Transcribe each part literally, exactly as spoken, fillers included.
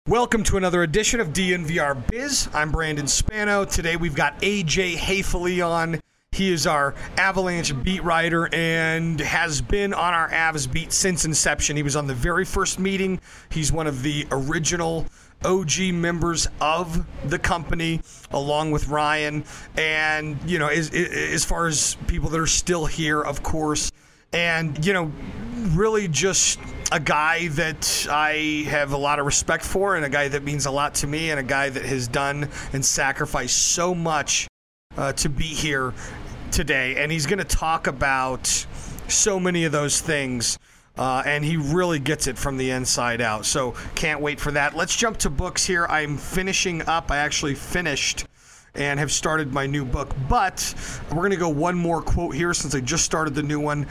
Welcome to another edition of D N V R Biz. I'm Brandon Spano. Today we've got A J Haefele on. He is our Avalanche beat writer and has been on our Avs beat since inception. He was on the very first meeting. He's one of the original O G members of the company, along with Ryan. And, you know, as, as far as people that are still here, of course. And, you know, really just a guy that I have a lot of respect for, and a guy that means a lot to me, and a guy that has done and sacrificed so much uh, to be here today. And he's going to talk about so many of those things, uh, and he really gets it from the inside out. So can't wait for that. Let's jump to books here. I'm finishing up. I actually finished and have started my new book, but we're going to go one more quote here since I just started the new one.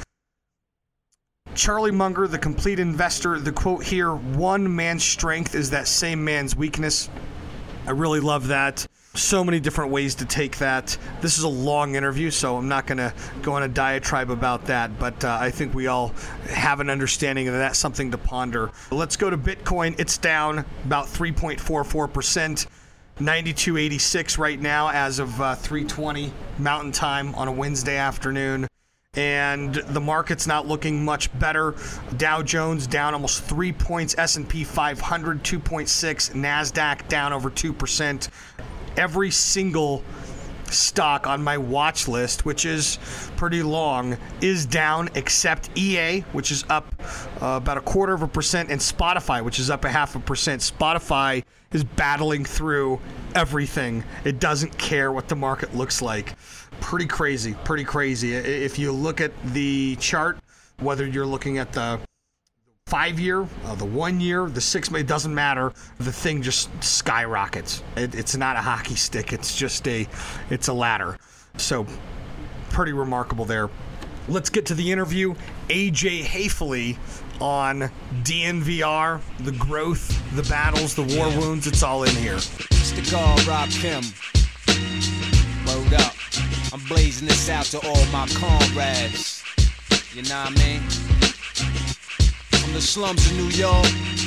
Charlie Munger, The Complete Investor, the quote here, one man's strength is that same man's weakness. I really love that. So many different ways to take that. This is a long interview, so I'm not going to go on a diatribe about that, but uh, I think we all have an understanding of that, something to ponder. Let's go to Bitcoin. It's down about three point four four percent, ninety-two eighty-six right now as of uh, three twenty Mountain Time on a Wednesday afternoon. And the market's not looking much better. Dow Jones down almost three points, S and P five hundred two point six, NASDAQ down over two percent. Every single stock on my watch list, which is pretty long, is down except E A, which is up uh, about a quarter of a percent, and Spotify, which is up a half a percent. Spotify is battling through everything. It doesn't care what the market looks like. Pretty crazy, pretty crazy. If you look at the chart, whether you're looking at the five-year, uh, the one-year, the six, it doesn't matter. The thing just skyrockets. It, it's not a hockey stick. It's just a, it's a ladder. So pretty remarkable there. Let's get to the interview. A J Haefele on D N V R, the growth, the battles, the war wounds, it's all in here. It's the guard, Rob Kim. Word up. I'm blazing this out to all my comrades. You know what I mean? From the slums of New York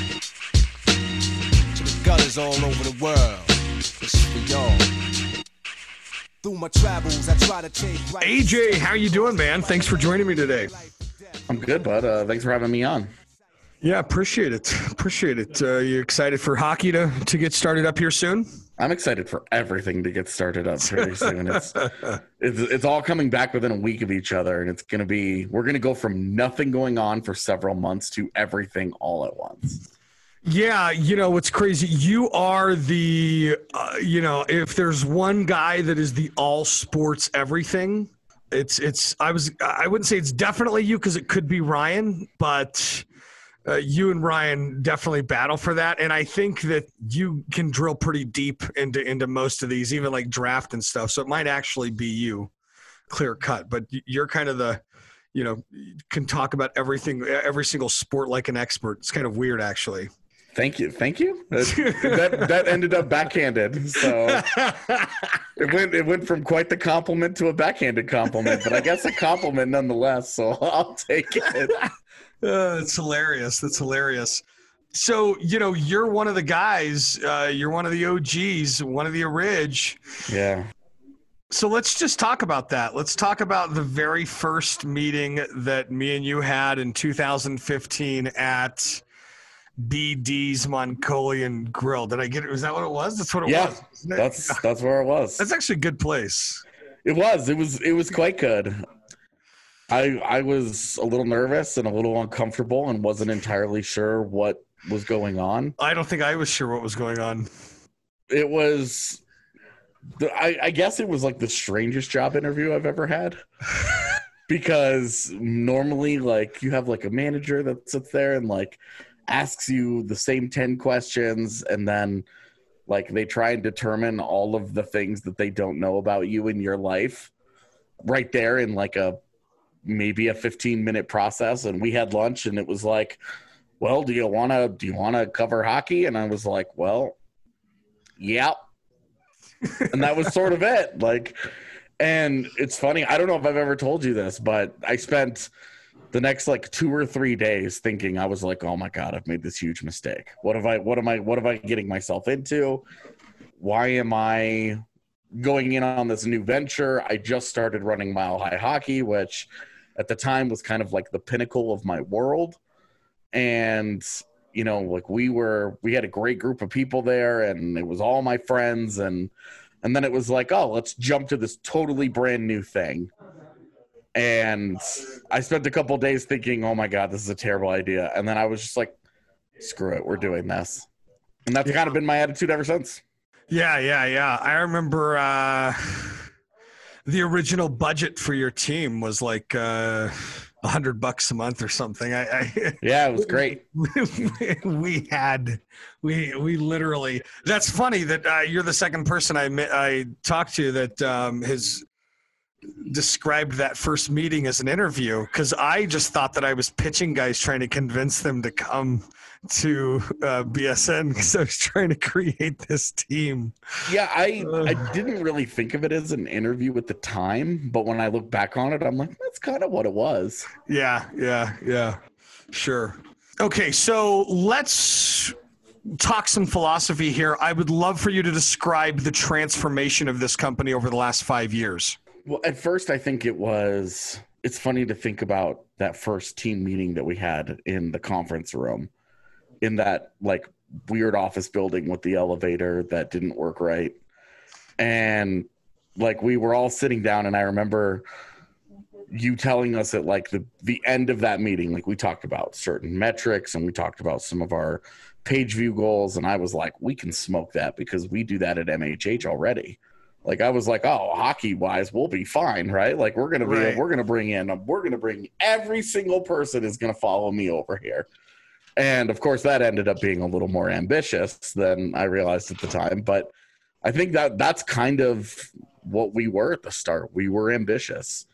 to the gutters all over the world. This is for y'all. Through my travels, I try to take right. A J, how you doing, man? Thanks for joining me today. I'm good, bud. Uh, thanks for having me on. Yeah, appreciate it. Appreciate it. Uh, you excited for hockey to, to get started up here soon? I'm excited for everything to get started up very soon. It's, it's it's all coming back within a week of each other, and it's going to be, we're going to go from nothing going on for several months to everything all at once. Yeah, you know, what's crazy, you are the, uh, you know, if there's one guy that is the all sports everything, it's, it's, I was, I wouldn't say it's definitely you because it could be Ryan, but Uh, you and Ryan definitely battle for that, and I think that you can drill pretty deep into into most of these, even like draft and stuff. So it might actually be you, clear cut. But you're kind of the, you know, can talk about everything, every single sport like an expert. It's kind of weird, actually. Thank you, thank you. that that ended up backhanded, so it went it went from quite the compliment to a backhanded compliment, but I guess a compliment nonetheless. So I'll take it. Uh, it's hilarious. That's hilarious. So, you know, you're one of the guys, uh, you're one of the O Gs, one of the orig. Yeah. So let's just talk about that. Let's talk about the very first meeting that me and you had in two thousand fifteen at B D's Mongolian Grill. Did I get it? Was that what it was? That's what it yeah, was. Yeah, that's, that's where it was. That's actually a good place. It was, it was, it was quite good. I I was a little nervous and a little uncomfortable and wasn't entirely sure what was going on. I don't think I was sure what was going on. It was, I, I guess it was like the strangest job interview I've ever had. Because normally, like, you have like a manager that sits there and like asks you the same ten questions, and then like they try and determine all of the things that they don't know about you in your life right there in like a maybe a fifteen minute process. And we had lunch and it was like, well, do you want to, do you want to cover hockey? And I was like, well, yeah. And that was sort of it. Like, and it's funny. I don't know if I've ever told you this, but I spent the next like two or three days thinking I was like, oh my God, I've made this huge mistake. What have I, what am I, what am I getting myself into? Why am I going in on this new venture? I just started running Mile High Hockey, which at the time was kind of like the pinnacle of my world. And, you know, like we were, we had a great group of people there and it was all my friends. And, and then it was like, oh, let's jump to this totally brand new thing. And I spent a couple days thinking, oh my God, this is a terrible idea. And then I was just like, screw it, we're doing this. And that's yeah. kind of been my attitude ever since. Yeah, yeah, yeah. I remember uh, the original budget for your team was like uh, a hundred bucks a month or something. I, I yeah, it was great. We, we had, we we literally. That's funny that uh, you're the second person I I talked to that um, has described that first meeting as an interview, because I just thought that I was pitching guys trying to convince them to come to uh, B S N because I was trying to create this team. Yeah, I uh, I didn't really think of it as an interview at the time, but when I look back on it, I'm like, that's kind of what it was. Yeah, yeah, yeah, sure. Okay, so let's talk some philosophy here. I would love for you to describe the transformation of this company over the last five years. Well, at first, I think it was, it's funny to think about that first team meeting that we had in the conference room, in that like weird office building with the elevator that didn't work right. And like we were all sitting down, and I remember you telling us at like the, the end of that meeting, like we talked about certain metrics and we talked about some of our page view goals. And I was like, we can smoke that because we do that at M H H already. Like I was like, oh, hockey wise, we'll be fine, right? Like we're gonna be, right. we're gonna bring in, we're gonna bring every single person is gonna follow me over here, and of course that ended up being a little more ambitious than I realized at the time. But I think that that's kind of what we were at the start. We were ambitious,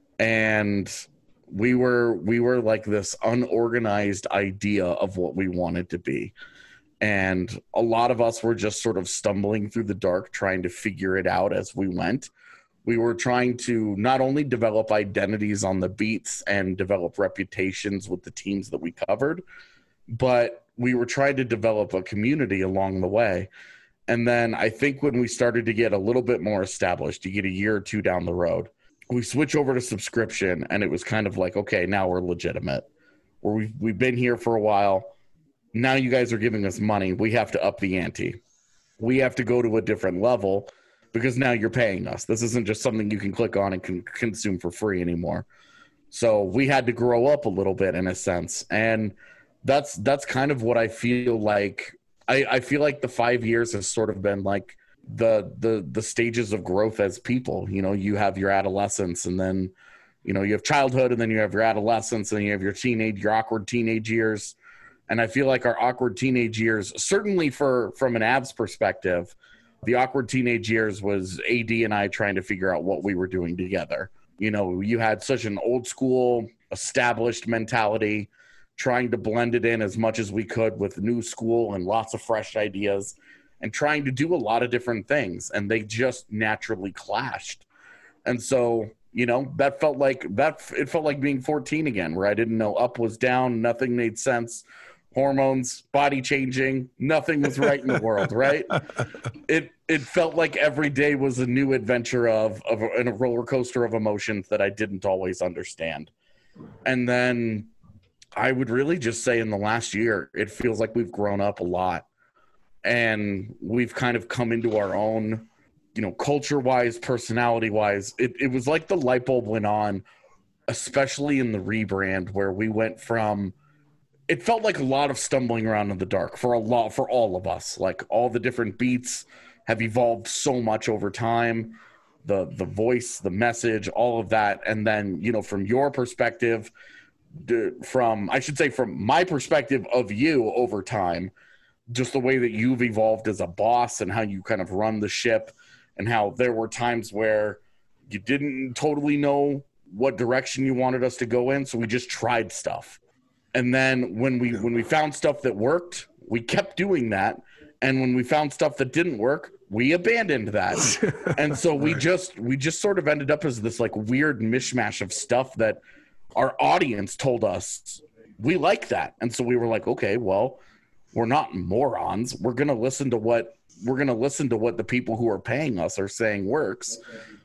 and we were we were like this unorganized idea of what we wanted to be. And a lot of us were just sort of stumbling through the dark, trying to figure it out as we went. We were trying to not only develop identities on the beats and develop reputations with the teams that we covered, but we were trying to develop a community along the way. And then I think when we started to get a little bit more established, you get a year or two down the road, we switch over to subscription, and it was kind of like, okay, now we're legitimate. Or we've, we've been here for a while. Now you guys are giving us money. We have to up the ante. We have to go to a different level because now you're paying us. This isn't just something you can click on and can consume for free anymore. So we had to grow up a little bit in a sense. And that's that's kind of what I feel like. I, I feel like the five years has sort of been like the the the stages of growth as people. You know, you have your adolescence, and then, you know, you have childhood, and then you have your adolescence, and then you have your teenage, your awkward teenage years. And I feel like our awkward teenage years, certainly for from an Avs perspective, the awkward teenage years was A D and I trying to figure out what we were doing together. You know, you had such an old school, established mentality, trying to blend it in as much as we could with new school and lots of fresh ideas, and trying to do a lot of different things. And they just naturally clashed. And so, you know, that felt like that. It felt like being fourteen again, where I didn't know up was down, nothing made sense. Hormones, body changing, nothing was right in the world, right? It it felt like every day was a new adventure of of a, a roller coaster of emotions that I didn't always understand. And then I would really just say in the last year, it feels like we've grown up a lot, and we've kind of come into our own, you know, culture-wise, personality-wise. It it was like the light bulb went on, especially in the rebrand, where we went from, it felt like a lot of stumbling around in the dark for a lot, for all of us. Like all the different beats have evolved so much over time, the the voice, the message, all of that. And then, you know, from your perspective, from, I should say from my perspective of you over time, just the way that you've evolved as a boss and how you kind of run the ship, and how there were times where you didn't totally know what direction you wanted us to go in. So we just tried stuff. And then when we when we found stuff that worked, we kept doing that. And when we found stuff that didn't work, we abandoned that. And so we just we just sort of ended up as this like weird mishmash of stuff that our audience told us we like that. And so we were like, okay, well, we're not morons. We're going to listen to what we're going to listen to what the people who are paying us are saying works.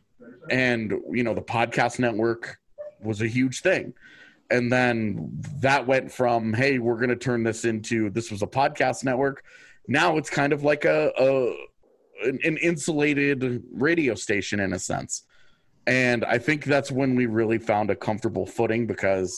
And, you know, the podcast network was a huge thing. And then that went from, hey, we're going to turn this into, this was a podcast network. Now it's kind of like a, a an, an insulated radio station in a sense. And I think that's when we really found a comfortable footing, because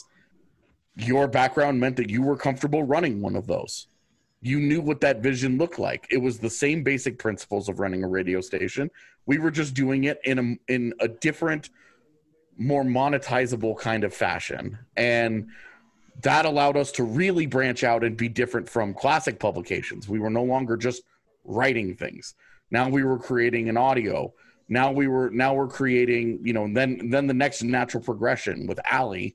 your background meant that you were comfortable running one of those. You knew what that vision looked like. It was the same basic principles of running a radio station. We were just doing it in a, in a different, more monetizable kind of fashion. And that allowed us to really branch out and be different from classic publications. We were no longer just writing things. Now we were creating an audio. Now we were, now we're creating, you know, then, then the next natural progression with Allie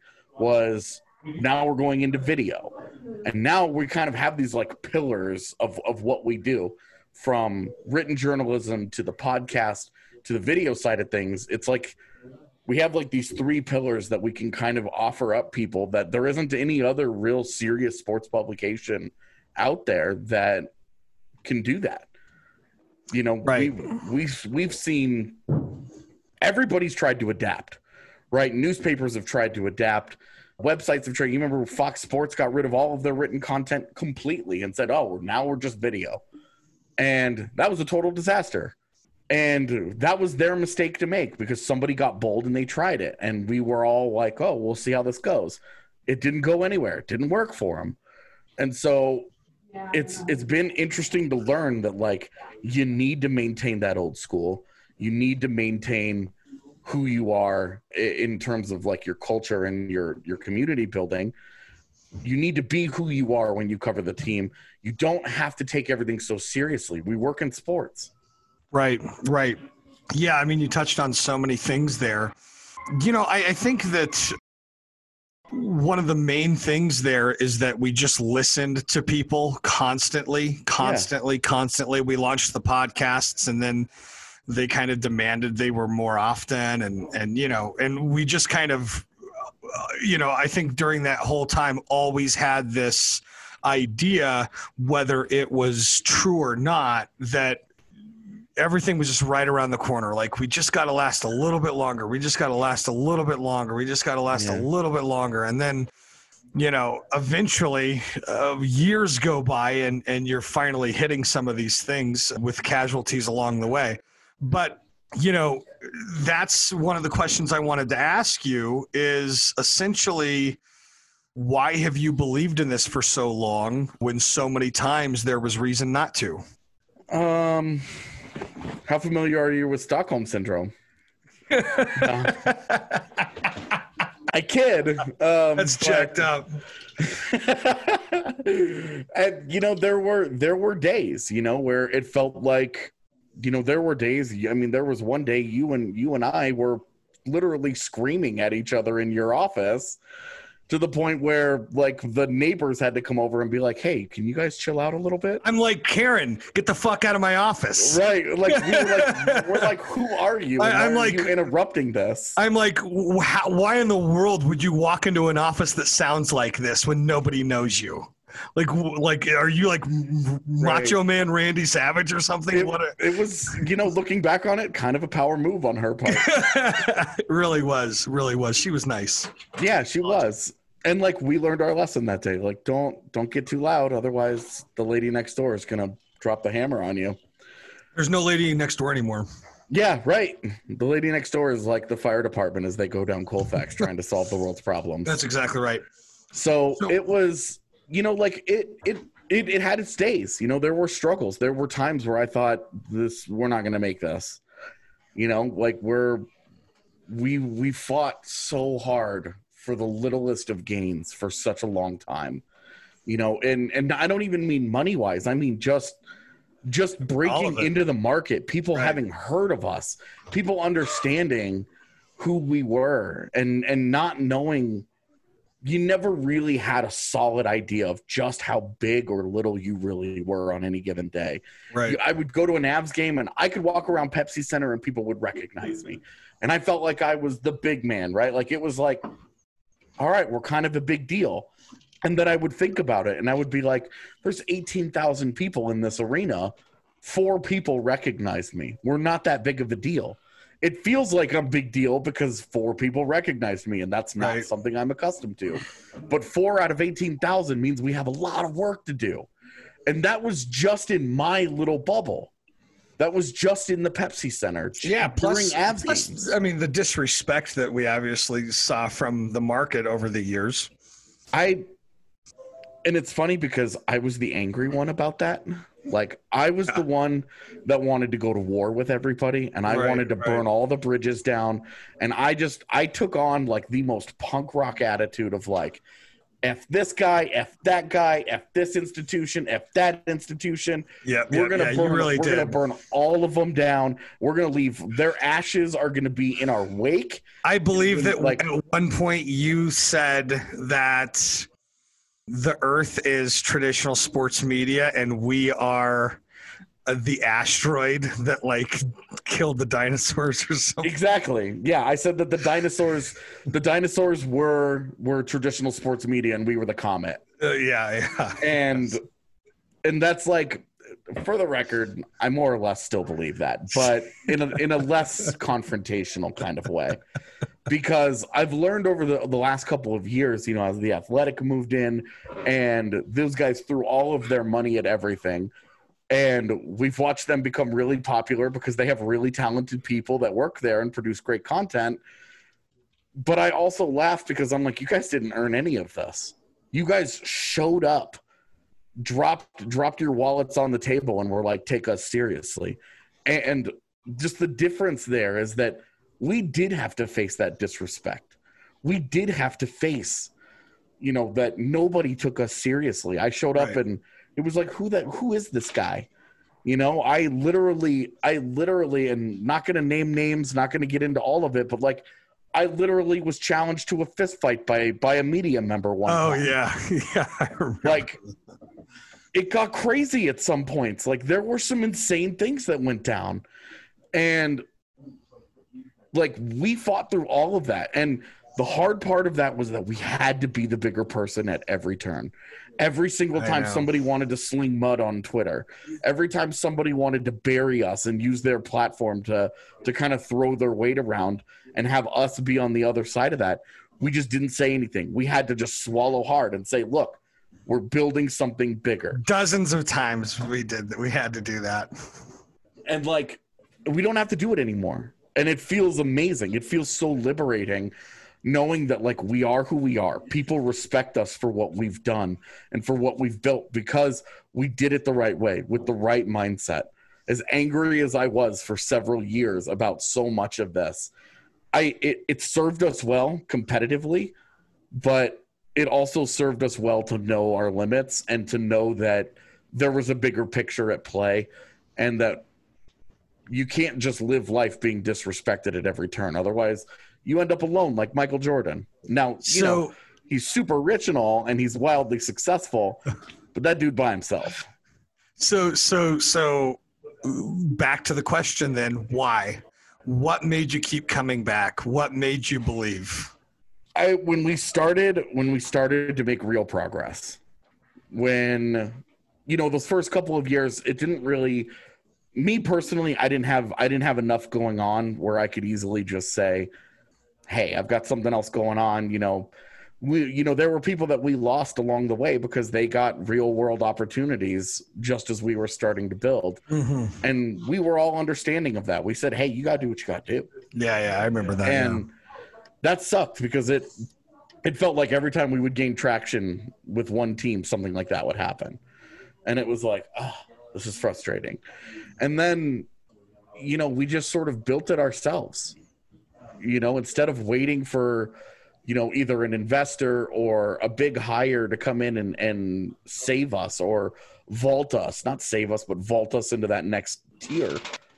was now we're going into video. And now we kind of have these like pillars of, of what we do, from written journalism to the podcast to the video side of things. It's like we have like these three pillars that we can kind of offer up people that there isn't any other real serious sports publication out there that can do that. You know, right. we, we've, we've seen everybody's tried to adapt, right? Newspapers have tried to adapt. Websites have tried. You remember Fox Sports got rid of all of their written content completely and said, oh, now we're just video. And that was a total disaster. And that was their mistake to make, because somebody got bold and they tried it. And we were all like, oh, we'll see how this goes. It didn't go anywhere. It didn't work for them. And so yeah, it's it's been interesting to learn that, like, you need to maintain that old school. You need to maintain who you are in terms of like your culture and your, your community building. You need to be who you are when you cover the team. You don't have to take everything so seriously. We work in sports. Right, right. Yeah, I mean, you touched on so many things there. You know, I, I think that one of the main things there is that we just listened to people constantly, constantly, yeah. constantly. We launched the podcasts, and then they kind of demanded they were more often. And, and, you know, and we just kind of, uh, you know, I think during that whole time always had this idea, whether it was true or not, that everything was just right around the corner. Like, we just got to last a little bit longer. We just got to last a little bit longer. We just got to last yeah. a little bit longer. And then, you know, eventually uh, years go by and, and you're finally hitting some of these things with casualties along the way. But, you know, that's one of the questions I wanted to ask you is essentially, why have you believed in this for so long when so many times there was reason not to? Um, how familiar are you with Stockholm Syndrome? uh, I kid. Um, That's but, checked up. And, you know, there were there were days, you know, where it felt like, you know, there were days. I mean, there was one day you and you and I were literally screaming at each other in your office, to the point where, like, the neighbors had to come over and be like, hey, can you guys chill out a little bit? I'm like, Karen, get the fuck out of my office. Right. Like, we were like, we're like, who are you? And I, I'm why like, are you interrupting this? I'm like, how, why in the world would you walk into an office that sounds like this when nobody knows you? Like, like, are you like Macho right. Man Randy Savage or something? It, what a- it was, you know, looking back on it, kind of a power move on her part. It really was, really was. She was nice. Yeah, she was. And, like, we learned our lesson that day. Like, don't don't get too loud, otherwise the lady next door is gonna drop the hammer on you. There's no lady next door anymore. Yeah, right. The lady next door is like the fire department as they go down Colfax trying to solve the world's problems. That's exactly right. So, so it was, you know, like it it it it had its days. You know, there were struggles. There were times where I thought, this we're not gonna make this. You know, like we're we we fought so hard for the littlest of gains for such a long time, you know, and, and I don't even mean money wise. I mean, just, just breaking into the market, people right. having heard of us, people understanding who we were, and, and not knowing, you never really had a solid idea of just how big or little you really were on any given day. Right. I would go to an Avs game and I could walk around Pepsi Center and people would recognize me. And I felt like I was the big man, right? Like it was like, all right, we're kind of a big deal. And then I would think about it, and I would be like, there's eighteen thousand people in this arena. Four people recognize me. We're not that big of a deal. It feels like a big deal because four people recognized me, and that's not right. something I'm accustomed to. But four out of eighteen thousand means we have a lot of work to do. And that was just in my little bubble. That was just in the Pepsi Center. Yeah, plus, during Avs plus games. I mean, the disrespect that we obviously saw from the market over the years. I, and it's funny because I was the angry one about that. Like, I was the one that wanted to go to war with everybody, and I Right, wanted to right. burn all the bridges down. And I just, I took on like the most punk rock attitude of like, F this guy, F that guy, F this institution, F that institution. Yeah, we're yeah, gonna yeah, you burn. really we're did. gonna burn all of them down. We're gonna leave. Their ashes are gonna be in our wake. I believe that Like- at one point you said that the Earth is traditional sports media, and we are uh, the asteroid that like killed the dinosaurs or something. Exactly. Yeah, I said that the dinosaurs, the dinosaurs were were traditional sports media, and we were the comet. Uh, yeah, yeah. And and that's like, for the record, I more or less still believe that, but in a in a less confrontational kind of way. Because I've learned over the, the last couple of years, you know, as the Athletic moved in and those guys threw all of their money at everything. And we've watched them become really popular because they have really talented people that work there and produce great content. But I also laugh because I'm like, you guys didn't earn any of this. You guys showed up, dropped dropped your wallets on the table, and were like, take us seriously. And just the difference there is that we did have to face that disrespect. We did have to face, you know, that nobody took us seriously. I showed up Right. and it was like, who that, who is this guy? You know, I literally, I literally, and not going to name names, not going to get into all of it, but like, I literally was challenged to a fist fight by, by a media member one Oh time. yeah, yeah. I remember. Like, it got crazy at some points. Like, there were some insane things that went down. And like, we fought through all of that. And the hard part of that was that we had to be the bigger person at every turn. Every single I time know. somebody wanted to sling mud on Twitter, every time somebody wanted to bury us and use their platform to to kind of throw their weight around and have us be on the other side of that, we just didn't say anything. We had to just swallow hard and say, look, we're building something bigger. Dozens of times we did that. We had to do that. And like, we don't have to do it anymore. And it feels amazing. It feels so liberating knowing that like we are who we are. People respect us for what we've done and for what we've built because we did it the right way with the right mindset. As angry as I was for several years about so much of this, I it, it served us well competitively, but it also served us well to know our limits and to know that there was a bigger picture at play and that you can't just live life being disrespected at every turn. Otherwise, you end up alone like Michael Jordan. Now, you So- know, he's super rich and all, and he's wildly successful, but that dude by himself. So so so back to the question then, why? What made you keep coming back? What made you believe? I when we started when we started to make real progress, when you know those first couple of years, it didn't really. Me personally, I didn't have I didn't have enough going on where I could easily just say, "Hey, I've got something else going on." You know, we you know there were people that we lost along the way because they got real world opportunities just as we were starting to build, Mm-hmm. and we were all understanding of that. We said, "Hey, you got to do what you got to do." Yeah, yeah, I remember that. and that sucked because it it felt like every time we would gain traction with one team, something like that would happen, and it was like, oh, this is frustrating. And then, you know, we just sort of built it ourselves. You know, instead of waiting for, you know, either an investor or a big hire to come in and, and save us or vault us, not save us, but vault us into that next tier.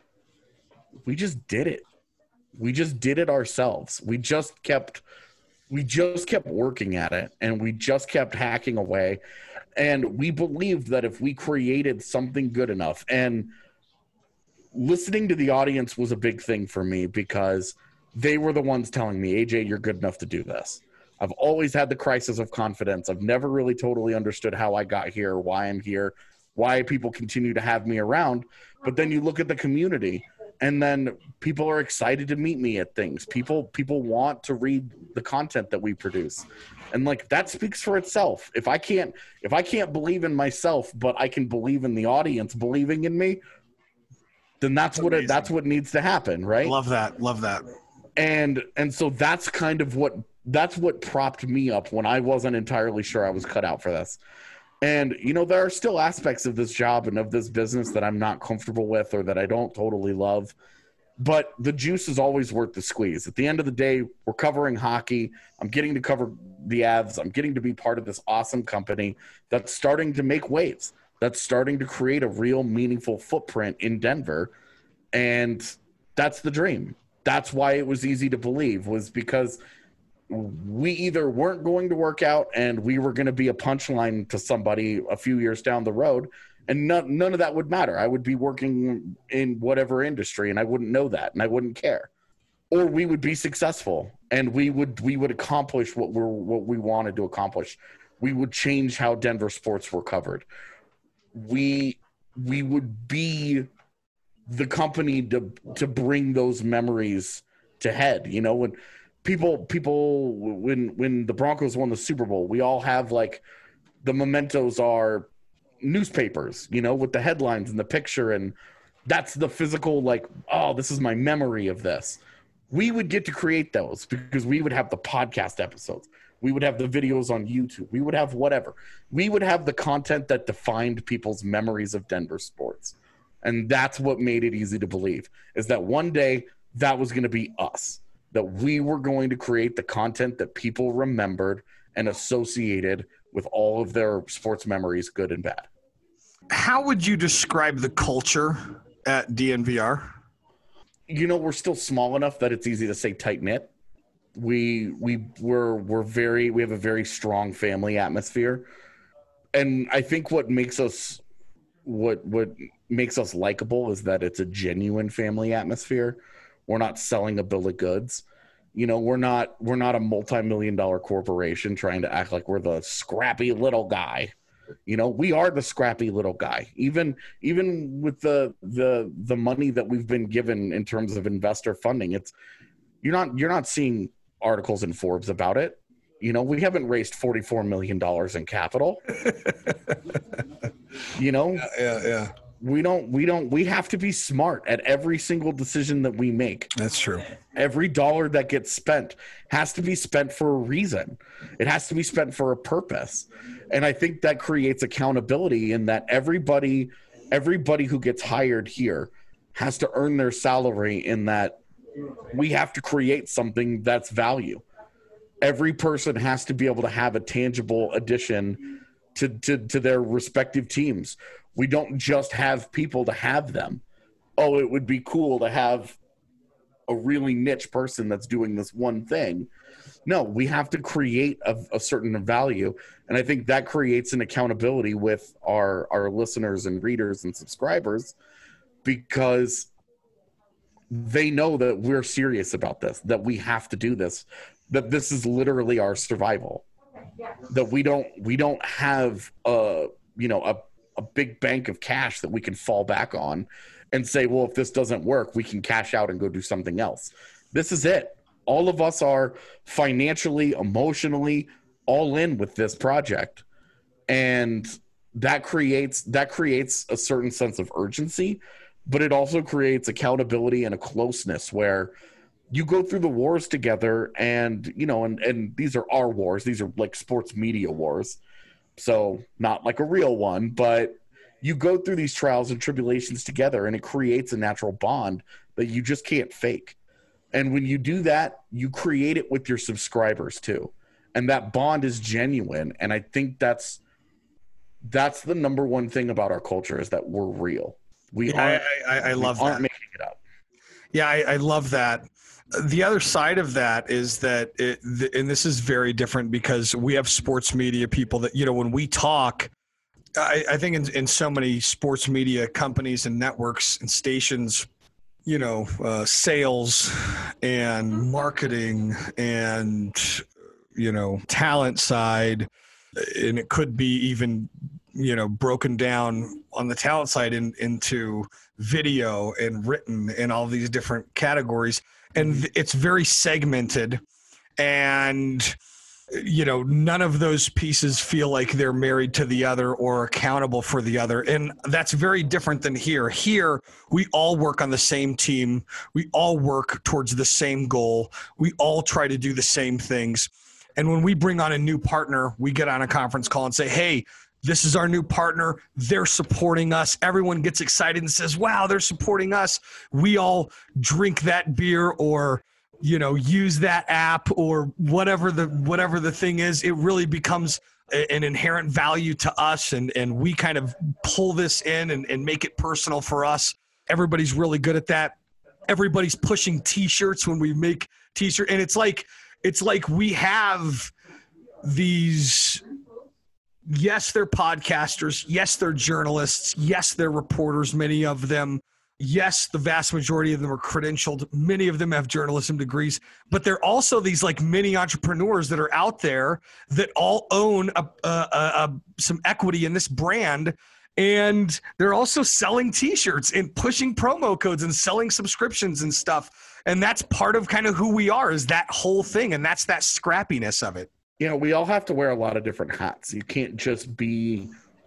We just did it. We just did it ourselves. We just kept we just kept working at it and we just kept hacking away. And we believed that if we created something good enough, and listening to the audience was a big thing for me because they were the ones telling me, A J, you're good enough to do this. I've always had the crisis of confidence. I've never really totally understood how I got here, why I'm here, why people continue to have me around. But then you look at the community, and then people are excited to meet me at things. People people want to read the content that we produce. And like that speaks for itself. If I can't if I can't believe in myself, but I can believe in the audience believing in me, then that's, that's what it, that's what needs to happen, right? Love that. Love that. And and so that's kind of what that's what propped me up when I wasn't entirely sure I was cut out for this. And you know, there are still aspects of this job and of this business that I'm not comfortable with or that I don't totally love. But the juice is always worth the squeeze. At the end of the day, we're covering hockey. I'm getting to cover the Avs. I'm getting to be part of this awesome company that's starting to make waves, that's starting to create a real meaningful footprint in Denver. And that's the dream. That's why it was easy to believe, was because we either weren't going to work out and we were going to be a punchline to somebody a few years down the road, and none, none of that would matter. I would be working in whatever industry and I wouldn't know that and I wouldn't care. Or we would be successful and we would we would accomplish what we're what we wanted to accomplish. We would change how Denver sports were covered. We we would be the company to to bring those memories to head. You know, when people people when when the Broncos won the Super Bowl, we all have like the mementos are newspapers, you know, with the headlines and the picture, and that's the physical, like, oh, this is my memory of this. We would get to create those because we would have the podcast episodes. We would have the videos on YouTube. We would have whatever. We would have the content that defined people's memories of Denver sports. And that's what made it easy to believe, is that one day that was going to be us, that we were going to create the content that people remembered and associated with all of their sports memories, good and bad. How would you describe the culture at D N V R? You know, we're still small enough that it's easy to say tight-knit. We we we're we're very we have a very strong family atmosphere. And I think what makes us what what makes us likable is that it's a genuine family atmosphere. We're not selling a bill of goods. You know, we're not we're not a multi-million dollar corporation trying to act like we're the scrappy little guy. You know, we are the scrappy little guy. Even even with the the the money that we've been given in terms of investor funding, it's you're not you're not seeing articles in Forbes about it. You know, we haven't raised forty-four million dollars in capital. You know, yeah, yeah, yeah. We don't, we don't, we have to be smart at every single decision that we make. That's true. Every dollar that gets spent has to be spent for a reason. It has to be spent for a purpose. And I think that creates accountability in that everybody, everybody who gets hired here has to earn their salary, in that we have to create something that's value. Every person has to be able to have a tangible addition to, to, to their respective teams. We don't just have people to have them. Oh, it would be cool to have a really niche person that's doing this one thing. No, we have to create a, a certain value. And I think that creates an accountability with our, our listeners and readers and subscribers, because they know that we're serious about this, that we have to do this, that this is literally our survival, that we don't, we don't have a, you know, a, a big bank of cash that we can fall back on and say, well, if this doesn't work, we can cash out and go do something else. This is it. All of us are financially, emotionally all in with this project. And that creates, that creates a certain sense of urgency, but it also creates accountability and a closeness where you go through the wars together, and, you know, and, and these are our wars. These are like sports media wars. So not like a real one, but you go through these trials and tribulations together, and it creates a natural bond that you just can't fake. And when you do that, you create it with your subscribers too. And that bond is genuine. And I think that's, that's the number one thing about our culture, is that we're real. We yeah, aren't, I, I, I love we aren't that. making it up. Yeah, I, I love that. The other side of that is that, it, th- and this is very different because we have sports media people that, you know, when we talk, I, I think in, in so many sports media companies and networks and stations, you know, uh, sales and marketing and you know, talent side, and it could be even, you know, broken down on the talent side in, into video and written and all these different categories. And it's very segmented, and, you know, none of those pieces feel like they're married to the other or accountable for the other. And that's very different than here. Here, we all work on the same team. We all work towards the same goal. We all try to do the same things. And when we bring on a new partner, we get on a conference call and say, hey, this is our new partner. They're supporting us. Everyone gets excited and says, wow, they're supporting us. We all drink that beer or, you know, use that app or whatever the whatever the thing is. It really becomes a, an inherent value to us, and, and we kind of pull this in and, and make it personal for us. Everybody's really good at that. Everybody's pushing T-shirts when we make T-shirt, and it's like it's like we have these. Yes, they're podcasters. Yes, they're journalists. Yes, they're reporters, many of them. Yes, the vast majority of them are credentialed. Many of them have journalism degrees. But they're also these like mini entrepreneurs that are out there that all own a, a, a, some equity in this brand. And they're also selling T-shirts and pushing promo codes and selling subscriptions and stuff. And that's part of kind of who we are, is that whole thing. And that's that scrappiness of it. You know, we all have to wear a lot of different hats. You can't just be,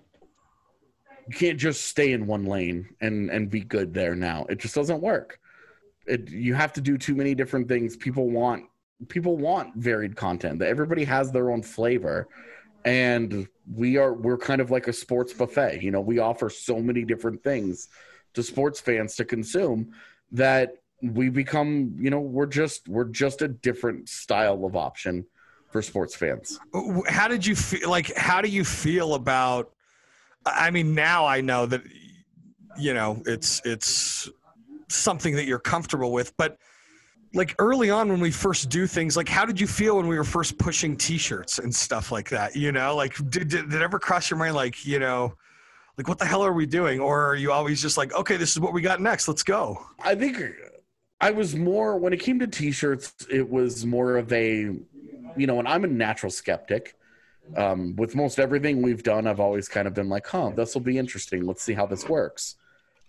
you can't just stay in one lane and, and be good there now. It just doesn't work. It, you have to do too many different things. People want, people want varied content. Everybody has their own flavor. And we are, we're kind of like a sports buffet. You know, we offer so many different things to sports fans to consume that we become, you know, we're just, we're just a different style of option for sports fans. How did you feel? Like, how do you feel about, I mean, now I know that, you know, it's, it's something that you're comfortable with, but like early on when we first do things, like how did you feel when we were first pushing T-shirts and stuff like that? You know, like did, did, did it ever cross your mind? Like, you know, like what the hell are we doing? Or are you always just like, okay, this is what we got next. Let's go. I think I was more, when it came to T-shirts, it was more of a, you know, and I'm a natural skeptic. Um, with most everything we've done, I've always kind of been like, huh, this will be interesting. Let's see how this works.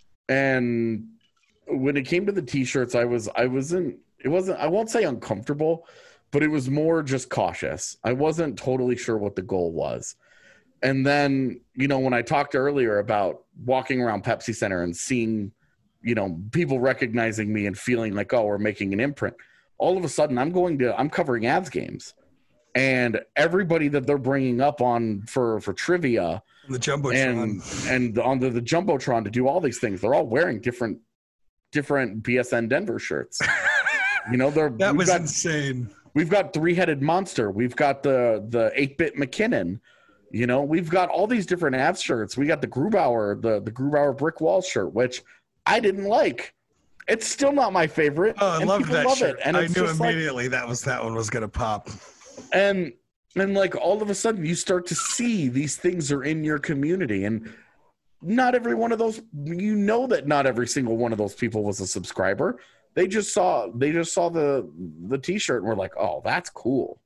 And when it came to the T-shirts, I was, I wasn't, it wasn't, I won't say uncomfortable, but it was more just cautious. I wasn't totally sure what the goal was. And then, you know, when I talked earlier about walking around Pepsi Center and seeing, you know, people recognizing me and feeling like, oh, we're making an imprint. All of a sudden I'm going to, I'm covering Avs games, and everybody that they're bringing up on for, for trivia, the Jumbotron, and, and on the, the Jumbotron to do all these things, they're all wearing different, different B S N Denver shirts. You know, they're, that was got, insane. We've got Three-Headed Monster. We've got the, the eight-bit McKinnon. You know, we've got all these different Avs shirts. We got the Grubauer, the, the Grubauer Brick Wall shirt, which I didn't like. It's still not my favorite. Oh, I love that love shirt. It. And I it's knew just immediately like, that was that one was gonna pop. And and like all of a sudden you start to see these things are in your community, and not every one of those, you know, that not every single one of those people was a subscriber. They just saw they just saw the the T-shirt and were like, oh, that's cool.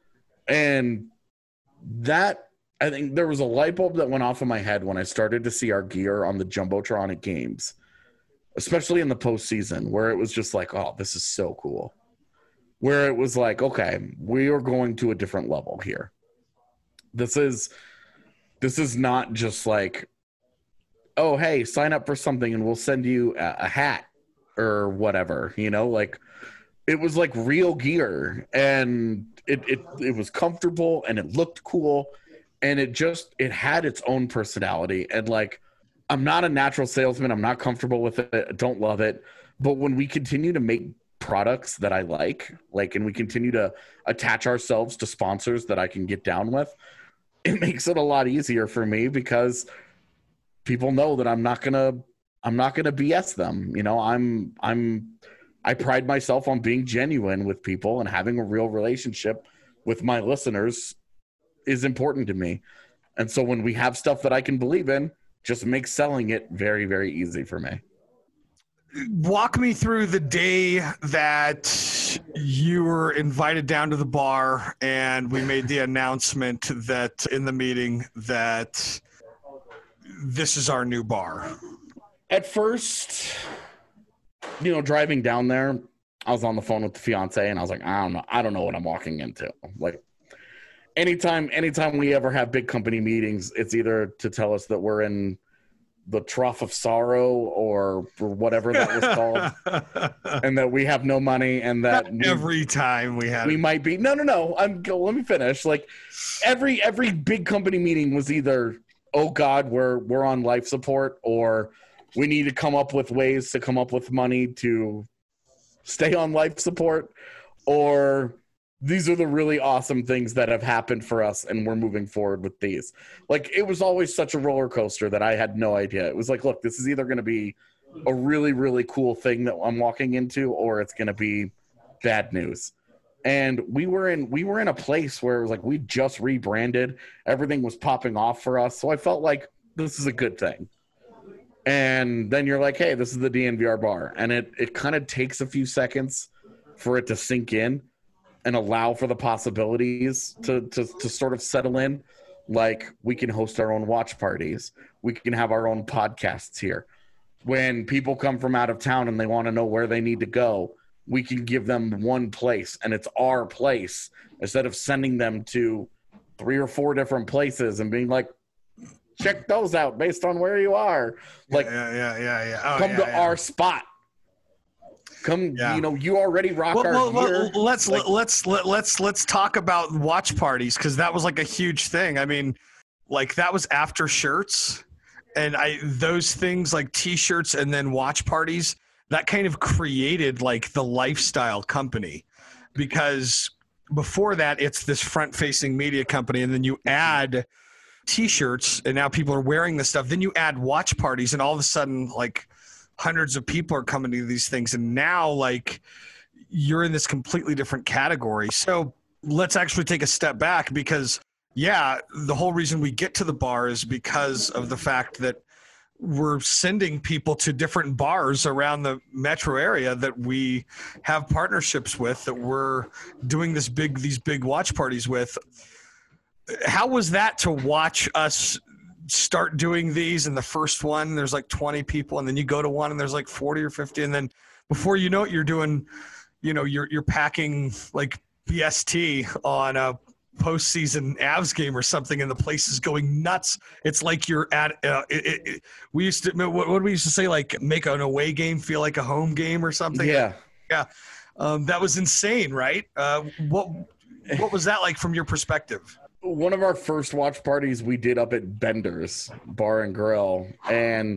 And that, I think there was a light bulb that went off in my head when I started to see our gear on the Jumbotron at games, especially in the postseason, where it was just like, oh, this is so cool. Where it was like, okay, we are going to a different level here. This is, this is not just like, oh, hey, sign up for something and we'll send you a, a hat or whatever, you know, like it was like real gear, and it, it, it was comfortable and it looked cool, and it just, it had its own personality. And like, I'm not a natural salesman. I'm not comfortable with it. I don't love it. But when we continue to make products that I like, like, and we continue to attach ourselves to sponsors that I can get down with, it makes it a lot easier for me, because people know that I'm not going to, I'm not going to B S them. You know, I'm, I'm, I pride myself on being genuine with people, and having a real relationship with my listeners is important to me. And so when we have stuff that I can believe in, just makes selling it very, very easy for me. Walk me through the day that you were invited down to the bar, and we made the announcement that in the meeting that this is our new bar. At first, you know, driving down there, I was on the phone with the fiance, and I was like, I don't know. I don't know what I'm walking into. Like, anytime, anytime we ever have big company meetings, it's either to tell us that we're in the trough of sorrow or whatever that was called, and that we have no money, and that we, every time we had we it. might be no no no I'm let me finish. Like every every big company meeting was either, oh God, we're we're on life support, or we need to come up with ways to come up with money to stay on life support, or these are the really awesome things that have happened for us, and we're moving forward with these. Like, it was always such a roller coaster that I had no idea. It was like, look, this is either going to be a really, really cool thing that I'm walking into, or it's going to be bad news. And we were in we were in a place where it was like we just rebranded. Everything was popping off for us. So I felt like this is a good thing. And then you're like, hey, this is the D N V R bar. And it, it kind of takes a few seconds for it to sink in and allow for the possibilities to, to, to sort of settle in. Like, we can host our own watch parties. We can have our own podcasts here. When people come from out of town and they want to know where they need to go, we can give them one place, and it's our place, instead of sending them to three or four different places and being like, check those out based on where you are. Like, yeah, yeah, yeah, yeah. Oh, come yeah, to yeah. our spot. Come, yeah. You know, you already rock well, our well, gear. well, let's like, let's let, let's let's talk about watch parties, because that was like a huge thing. I mean, like that was after shirts, and I those things like T-shirts and then watch parties, that kind of created like the lifestyle company, because before that it's this front-facing media company, and then you add T-shirts, and now people are wearing this stuff. Then you add watch parties, and all of a sudden, like, hundreds of people are coming to these things, and now like you're in this completely different category. So let's actually take a step back, because yeah, the whole reason we get to the bar is because of the fact that we're sending people to different bars around the metro area that we have partnerships with, that we're doing this big these big watch parties with. How was that to watch us start doing these? In the first one, there's like twenty people, and then you go to one and there's like forty or fifty, and then before you know it, you're doing, you know, you're you're packing like B S T on a postseason Avs game or something, and the place is going nuts. It's like you're at uh, it, it, it, we used to what, what did we used to say, like make an away game feel like a home game or something. Yeah, yeah, um, that was insane, right? Uh, what what was that like from your perspective? One of our first watch parties we did up at Bender's Bar and Grill, and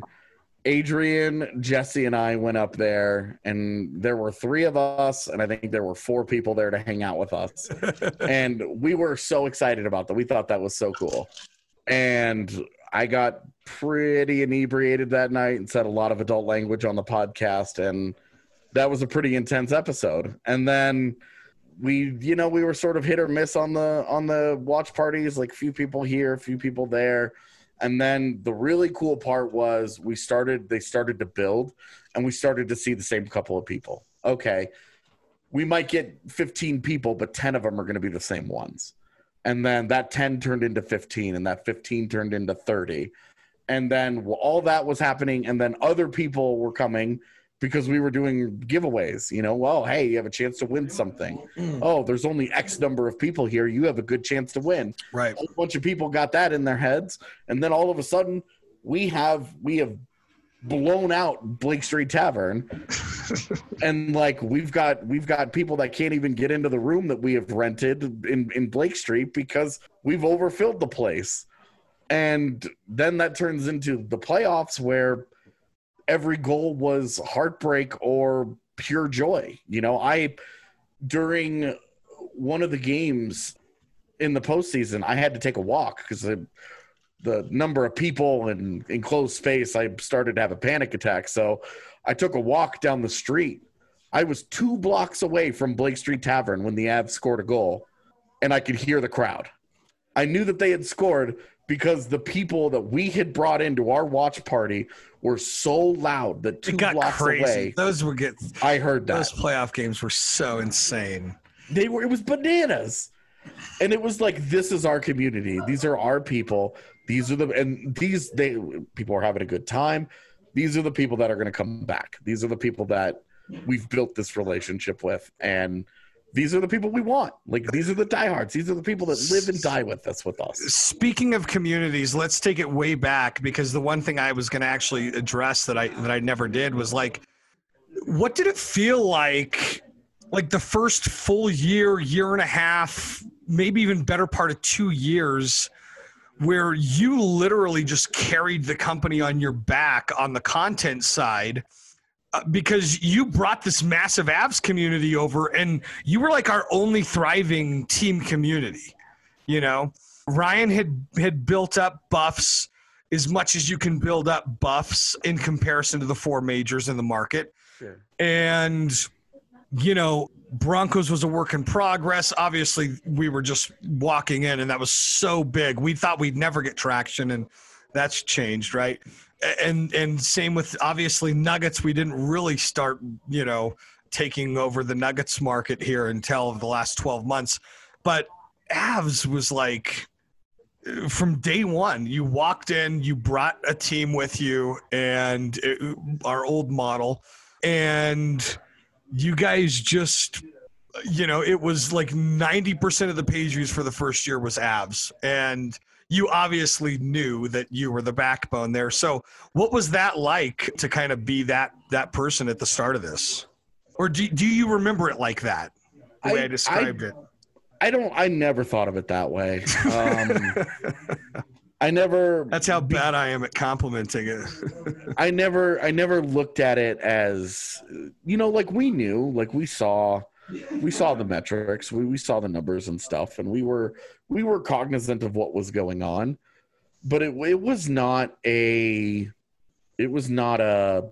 Adrian, Jesse, and I went up there, and there were three of us, and I think there were four people there to hang out with us. And we were so excited about that. We thought that was so cool. And I got pretty inebriated that night and said a lot of adult language on the podcast, and that was a pretty intense episode. And then we, you know, we were sort of hit or miss on the on the watch parties, like a few people here, a few people there. And then the really cool part was we started, they started to build, and we started to see the same couple of people. Okay, we might get fifteen people, but ten of them are going to be the same ones. And then that ten turned into fifteen, and that fifteen turned into thirty. And then all that was happening, and then other people were coming because we were doing giveaways. You know, well, hey, you have a chance to win something. Mm. Oh, there's only X number of people here. You have a good chance to win. Right. A bunch of people got that in their heads, and then all of a sudden, we have we have blown out Blake Street Tavern, and like we've got we've got people that can't even get into the room that we have rented in in Blake Street because we've overfilled the place. And then that turns into the playoffs, where every goal was heartbreak or pure joy. You know, I, during one of the games in the postseason, I had to take a walk because the, the number of people in enclosed space, I started to have a panic attack. So I took a walk down the street. I was two blocks away from Blake Street Tavern when the Avs scored a goal, and I could hear the crowd. I knew that they had scored because the people that we had brought into our watch party were so loud that two It got blocks crazy. away, Those were get. I heard that. Those playoff games were so insane. They were. It was bananas, and it was like, this is our community. These are our people. These are the and these they people are having a good time. These are the people that are going to come back. These are the people that we've built this relationship with, and these are the people we want. Like, these are the diehards. These are the people that live and die with us. With us. Speaking of communities, let's take it way back, because the one thing I was going to actually address that I that I never did was, like, what did it feel like, like the first full year, year and a half, maybe even better part of two years, where you literally just carried the company on your back on the content side? Because you brought this massive Avs community over, and you were like our only thriving team community. You know, Ryan had had built up Buffs as much as you can build up Buffs in comparison to the four majors in the market. Sure. And, you know, Broncos was a work in progress. Obviously, we were just walking in, and that was so big. We thought we'd never get traction, and that's changed, right? And and same with, obviously, Nuggets. We didn't really start, you know, taking over the Nuggets market here until the last twelve months. But Avs was like, from day one, you walked in, you brought a team with you, and it, our old model, and you guys just, you know, it was like ninety percent of the page views for the first year was Avs. And you obviously knew that you were the backbone there. So what was that like to kind of be that that person at the start of this? Or do, do you remember it like that, the way I, I described I, it? I don't – I never thought of it that way. Um, I never – That's how bad I am at complimenting it. I never I never looked at it as, you know, like we knew, like we saw – we saw the metrics, we, we saw the numbers and stuff, and we were we were cognizant of what was going on, but it it was not a it was not a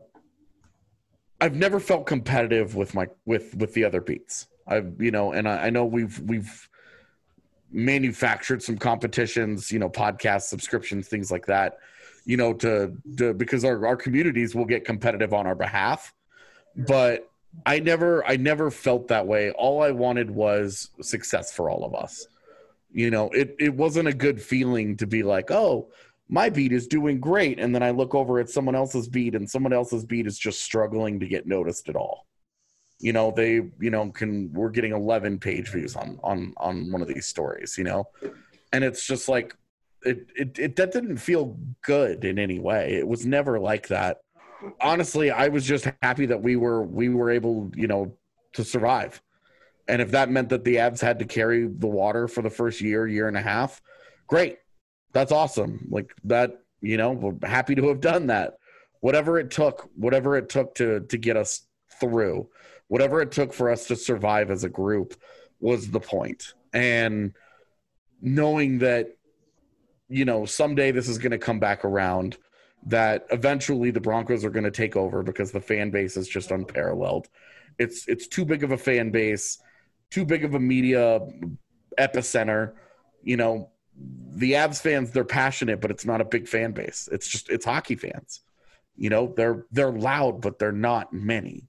I've never felt competitive with my with with the other beats. I've you know, and I, I know we've we've manufactured some competitions, you know, podcast subscriptions, things like that, you know, to, to because our, our communities will get competitive on our behalf, but I never, I never felt that way. All I wanted was success for all of us. You know, it, it wasn't a good feeling to be like, oh, my beat is doing great. And then I look over at someone else's beat and someone else's beat is just struggling to get noticed at all. You know, they, you know, can, we're getting eleven page views on, on, on one of these stories, you know, and it's just like, it, it, it, that didn't feel good in any way. It was never like that. Honestly, I was just happy that we were we were able, you know, to survive. And if that meant that the Avs had to carry the water for the first year, year and a half, great. That's awesome. Like that, you know, we're happy to have done that. Whatever it took, whatever it took to to get us through, whatever it took for us to survive as a group was the point. And knowing that, you know, someday this is going to come back around, that eventually the Broncos are going to take over because the fan base is just unparalleled. It's it's too big of a fan base, too big of a media epicenter. You know, the Avs fans, they're passionate, but it's not a big fan base. It's just it's hockey fans. You know, they're they're loud, but they're not many.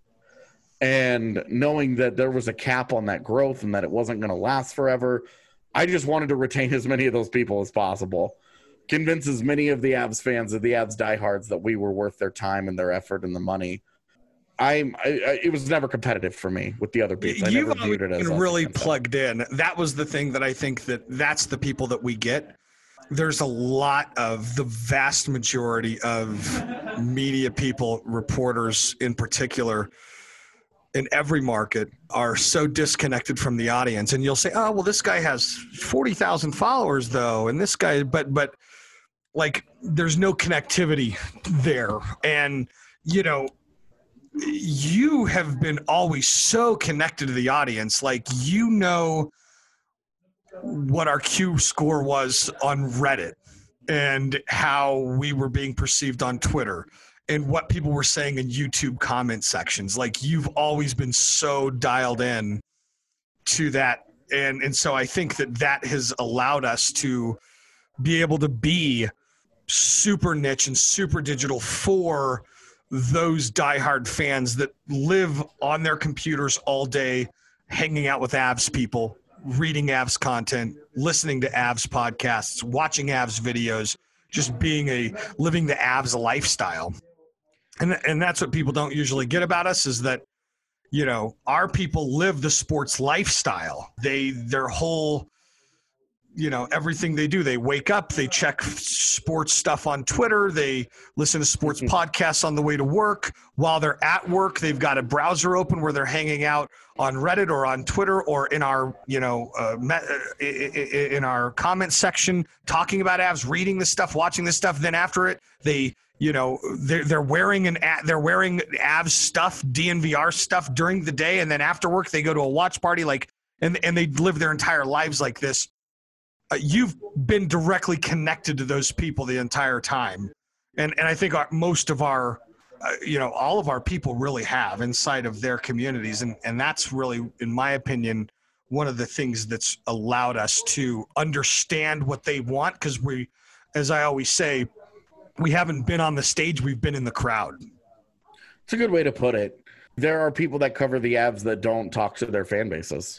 And knowing that there was a cap on that growth and that it wasn't going to last forever, I just wanted to retain as many of those people as possible. Convince as many of the Avs fans, of the Avs diehards, that we were worth their time and their effort and the money. I'm, I, I, it was never competitive for me with the other beats. I You've never viewed it as been really plugged in. That was the thing that I think that that's the people that we get. There's a lot of the vast majority of media people, reporters in particular, in every market are so disconnected from the audience. And you'll say, oh, well, this guy has forty thousand followers though. And this guy, but, but like, there's no connectivity there. And, you know, you have been always so connected to the audience. Like, you know what our Q score was on Reddit and how we were being perceived on Twitter and what people were saying in YouTube comment sections. Like, you've always been so dialed in to that. And, and so I think that that has allowed us to be able to be super niche and super digital for those diehard fans that live on their computers all day, hanging out with Avs people, reading Avs content, listening to Avs podcasts, watching Avs videos, just being a living the Avs lifestyle. And and that's what people don't usually get about us, is that, you know, our people live the sports lifestyle. They their whole, you know, everything they do, they wake up, they check sports stuff on Twitter, they listen to sports mm-hmm. podcasts on the way to work. While they're at work, they've got a browser open where they're hanging out on Reddit or on Twitter or in our, you know, uh, in our comment section, talking about Avs, reading this stuff, watching this stuff. Then after it, they, you know, they're, they're wearing an they're wearing Avs stuff, D N V R stuff during the day, and then after work they go to a watch party, like, and and they live their entire lives like this. Uh, you've been directly connected to those people the entire time, and and I think our, most of our, uh, you know, all of our people really have inside of their communities, and and that's really, in my opinion, one of the things that's allowed us to understand what they want, because we, as I always say, we haven't been on the stage, we've been in the crowd. It's a good way to put it. There are people that cover the Avs that don't talk to their fan bases,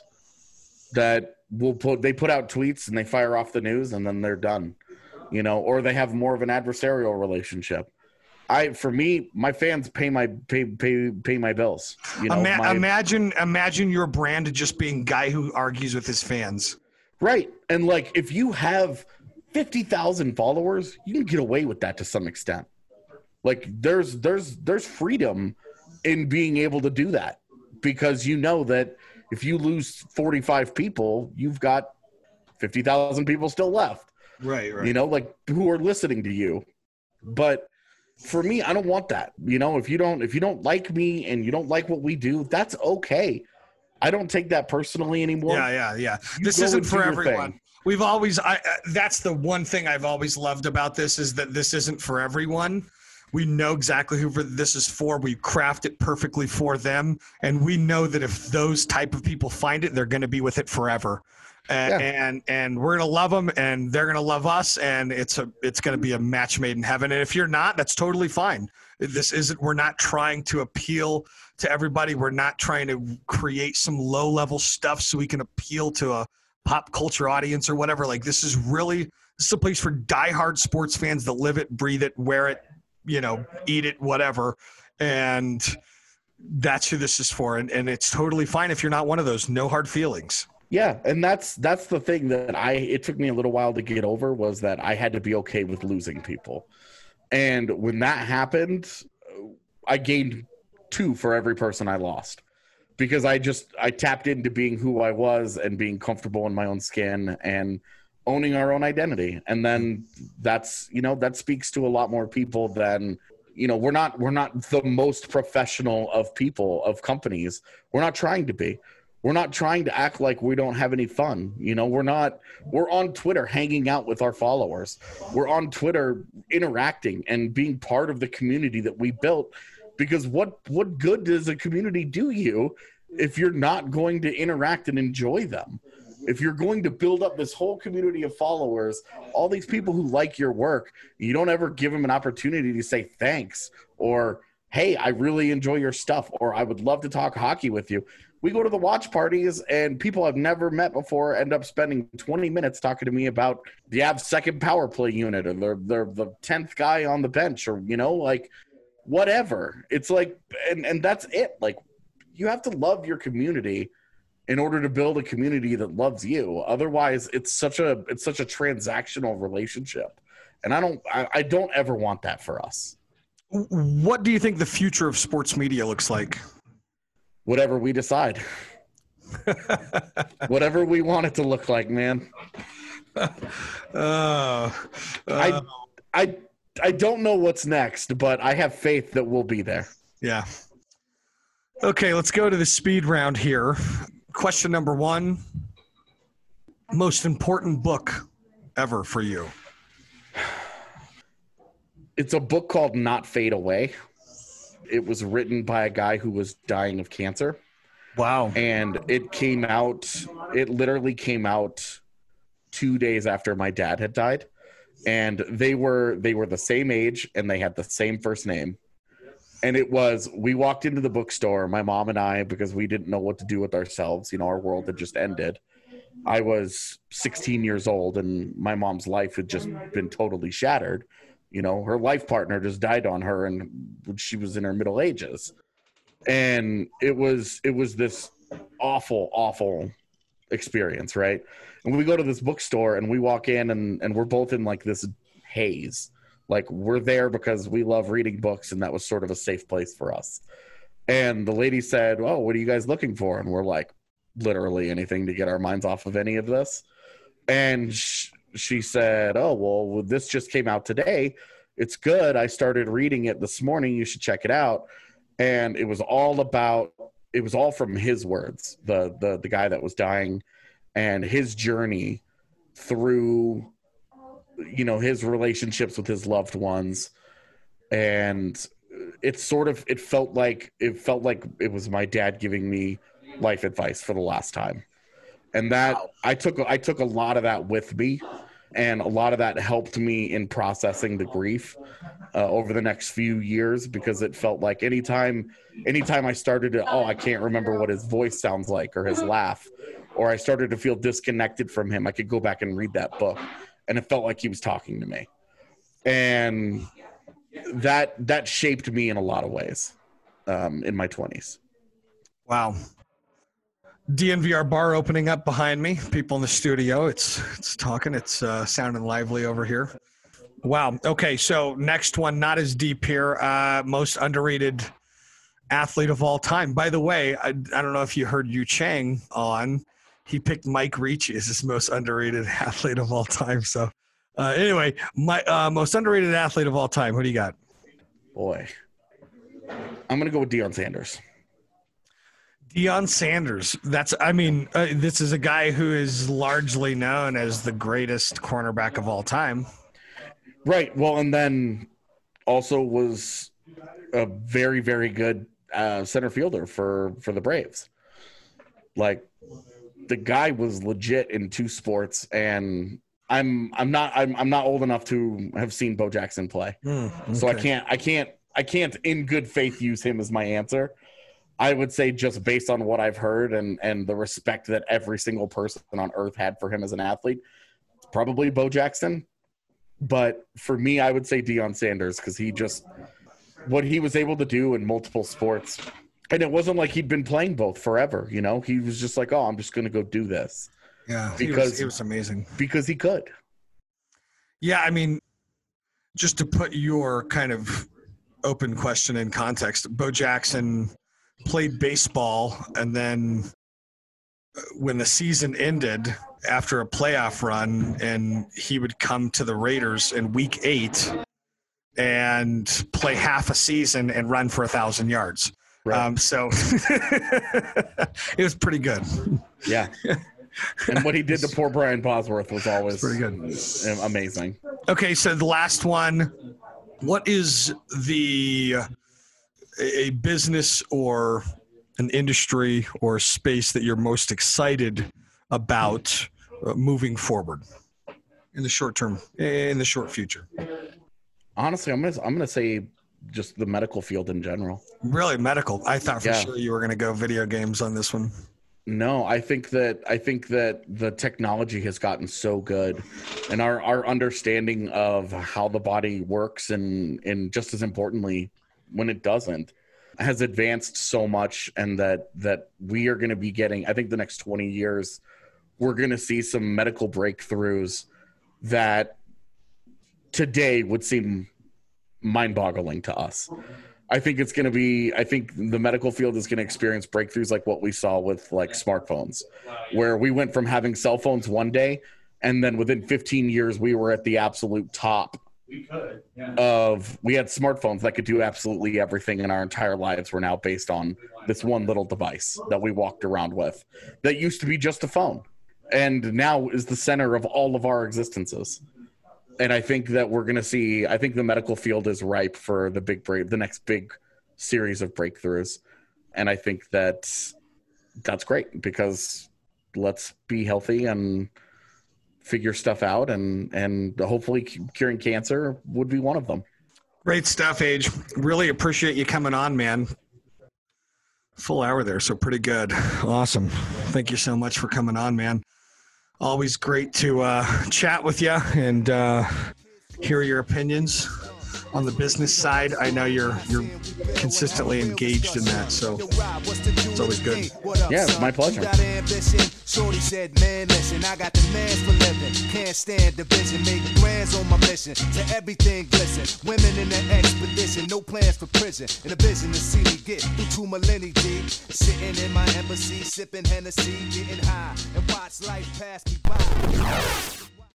that will put, they put out tweets and they fire off the news and then they're done, you know, or they have more of an adversarial relationship. I, for me, my fans pay my, pay, pay, pay my bills. You know, Ima- my, imagine, imagine your brand just being guy who argues with his fans. Right. And like, if you have fifty thousand followers, you can get away with that to some extent. Like there's there's there's freedom in being able to do that, because you know that if you lose forty-five people, you've got fifty thousand people still left. Right, right. You know, like, who are listening to you. But for me, I don't want that. You know, if you don't if you don't like me and you don't like what we do, that's okay. I don't take that personally anymore. Yeah, yeah, yeah. You this isn't for everyone. Thing. We've always, I, uh, that's the one thing I've always loved about this, is that this isn't for everyone. We know exactly who this is for. We craft it perfectly for them. And we know that if those type of people find it, they're going to be with it forever. And, yeah. and, and we're going to love them and they're going to love us. And it's a, it's going to be a match made in heaven. And if you're not, that's totally fine. This isn't, we're not trying to appeal to everybody. We're not trying to create some low level stuff so we can appeal to a pop culture audience or whatever. Like, this is really, this is a place for diehard sports fans that live it, breathe it, wear it, you know, eat it, whatever. And that's who this is for. And, and it's totally fine if you're not one of those. No hard feelings. Yeah. And that's, that's the thing that I, it took me a little while to get over, was that I had to be okay with losing people. And when that happened, I gained two for every person I lost. Because I just, I tapped into being who I was and being comfortable in my own skin and owning our own identity. And then that's, you know, that speaks to a lot more people than, you know, we're not, we're not the most professional of people, of companies. We're not trying to be. We're not trying to act like we don't have any fun. You know, we're not, we're on Twitter hanging out with our followers. We're on Twitter interacting and being part of the community that we built. Because what, what good does a community do you if you're not going to interact and enjoy them? If you're going to build up this whole community of followers, all these people who like your work, you don't ever give them an opportunity to say thanks or, hey, I really enjoy your stuff, or I would love to talk hockey with you. We go to the watch parties and people I've never met before end up spending twenty minutes talking to me about the Avs second power play unit, or they're, they're the tenth guy on the bench, or, you know, like, whatever. It's like, and, and that's it. Like, you have to love your community in order to build a community that loves you. Otherwise, it's such a, it's such a transactional relationship. And I don't, I, I don't ever want that for us. What do you think the future of sports media looks like? Whatever we decide. Whatever we want it to look like, man. Uh, uh, I, I, I don't know what's next, but I have faith that we'll be there. Yeah. Okay, let's go to the speed round here. Question number one, most important book ever for you? It's a book called Not Fade Away. It was written by a guy who was dying of cancer. Wow. And it came out, it literally came out two days after my dad had died. and they were they were the same age and they had the same first name. And it was, we walked into the bookstore, my mom and I, because we didn't know what to do with ourselves. You know, our world had just ended. I was sixteen years old and my mom's life had just been totally shattered. You know, her life partner just died on her and she was in her middle ages. And it was, it was this awful, awful experience, right? And we go to this bookstore and we walk in and, and we're both in like this haze. Like, we're there because we love reading books, and that was sort of a safe place for us. And the lady said, "Oh, what are you guys looking for?" And we're like, literally anything to get our minds off of any of this. And sh- she said, "Oh, well, this just came out today. It's good. I started reading it this morning. You should check it out." And it was all about, it was all from his words, the the the guy that was dying and his journey through, you know, his relationships with his loved ones. And it's sort of, it felt like, it felt like it was my dad giving me life advice for the last time. And that wow. I took, I took a lot of that with me, and a lot of that helped me in processing the grief uh, over the next few years, because it felt like anytime, anytime I started to, oh, I can't remember what his voice sounds like or his laugh, or I started to feel disconnected from him, I could go back and read that book. And it felt like he was talking to me. And that that shaped me in a lot of ways um, in my twenties. Wow. D N V R bar opening up behind me. People in the studio. It's it's talking. It's uh, sounding lively over here. Wow. Okay, so next one, not as deep here. Uh, most underrated athlete of all time. By the way, I, I don't know if you heard Yu Chang on. He picked Mike Ricci as his most underrated athlete of all time. So uh, anyway, my uh, most underrated athlete of all time. Who do you got? Boy, I'm going to go with Deion Sanders. Deion Sanders. That's, I mean, uh, this is a guy who is largely known as the greatest cornerback of all time. Right. Well, and then also was a very, very good uh, center fielder for, for the Braves. Like, the guy was legit in two sports, and I'm I'm not I'm I'm not old enough to have seen Bo Jackson play, mm, okay. so I can't I can't I can't in good faith use him as my answer. I would say, just based on what I've heard and and the respect that every single person on earth had for him as an athlete, it's probably Bo Jackson. But for me, I would say Deion Sanders, because he just, what he was able to do in multiple sports. And it wasn't like he'd been playing both forever, you know? He was just like, oh, I'm just going to go do this. Yeah, because he was, he was amazing. Because he could. Yeah, I mean, just to put your kind of open question in context, Bo Jackson played baseball, and then when the season ended after a playoff run, and he would come to the Raiders in week eight and play half a season and run for a thousand yards. Right. Um, so it was pretty good. Yeah. And what he did to poor Brian Bosworth was always pretty good. Amazing. Okay, so the last one. What is the a business or an industry or space that you're most excited about uh, moving forward in the short term, in the short future? Honestly, I'm gonna I'm gonna say just the medical field in general. Really, medical? I thought for yeah. sure you were going to go video games on this one. No, I think that I think that the technology has gotten so good, and our, our understanding of how the body works, and and just as importantly, when it doesn't, has advanced so much, and that that we are going to be getting. I think the next twenty years, we're going to see some medical breakthroughs that today would seem mind-boggling to us. I think it's going to be, I think the medical field is going to experience breakthroughs like what we saw with like smartphones, where we went from having cell phones one day, and then within fifteen years, we were at the absolute top we could, yeah. of, we had smartphones that could do absolutely everything, and our entire lives were now based on this one little device that we walked around with that used to be just a phone, and now is the center of all of our existences. And I think that we're going to see, I think the medical field is ripe for the big break, the next big series of breakthroughs. And I think that that's great, because let's be healthy and figure stuff out, and and hopefully curing cancer would be one of them. Great stuff, Age. Really appreciate you coming on, man. Full hour there, so pretty good. Awesome. Thank you so much for coming on, man. Always great to uh, chat with you and uh, hear your opinions on the business side. I know you're you're consistently engaged in that, so it's always good. Yeah, it's my pleasure. Shorty said, man, listen, I got the mans for living. Can't stand division, make brands on my mission. To everything glisten, women in the expedition, no plans for prison. In a vision to see me get through two millennia deep. Sitting in my embassy, sipping Hennessy, getting high, and watch life pass me by.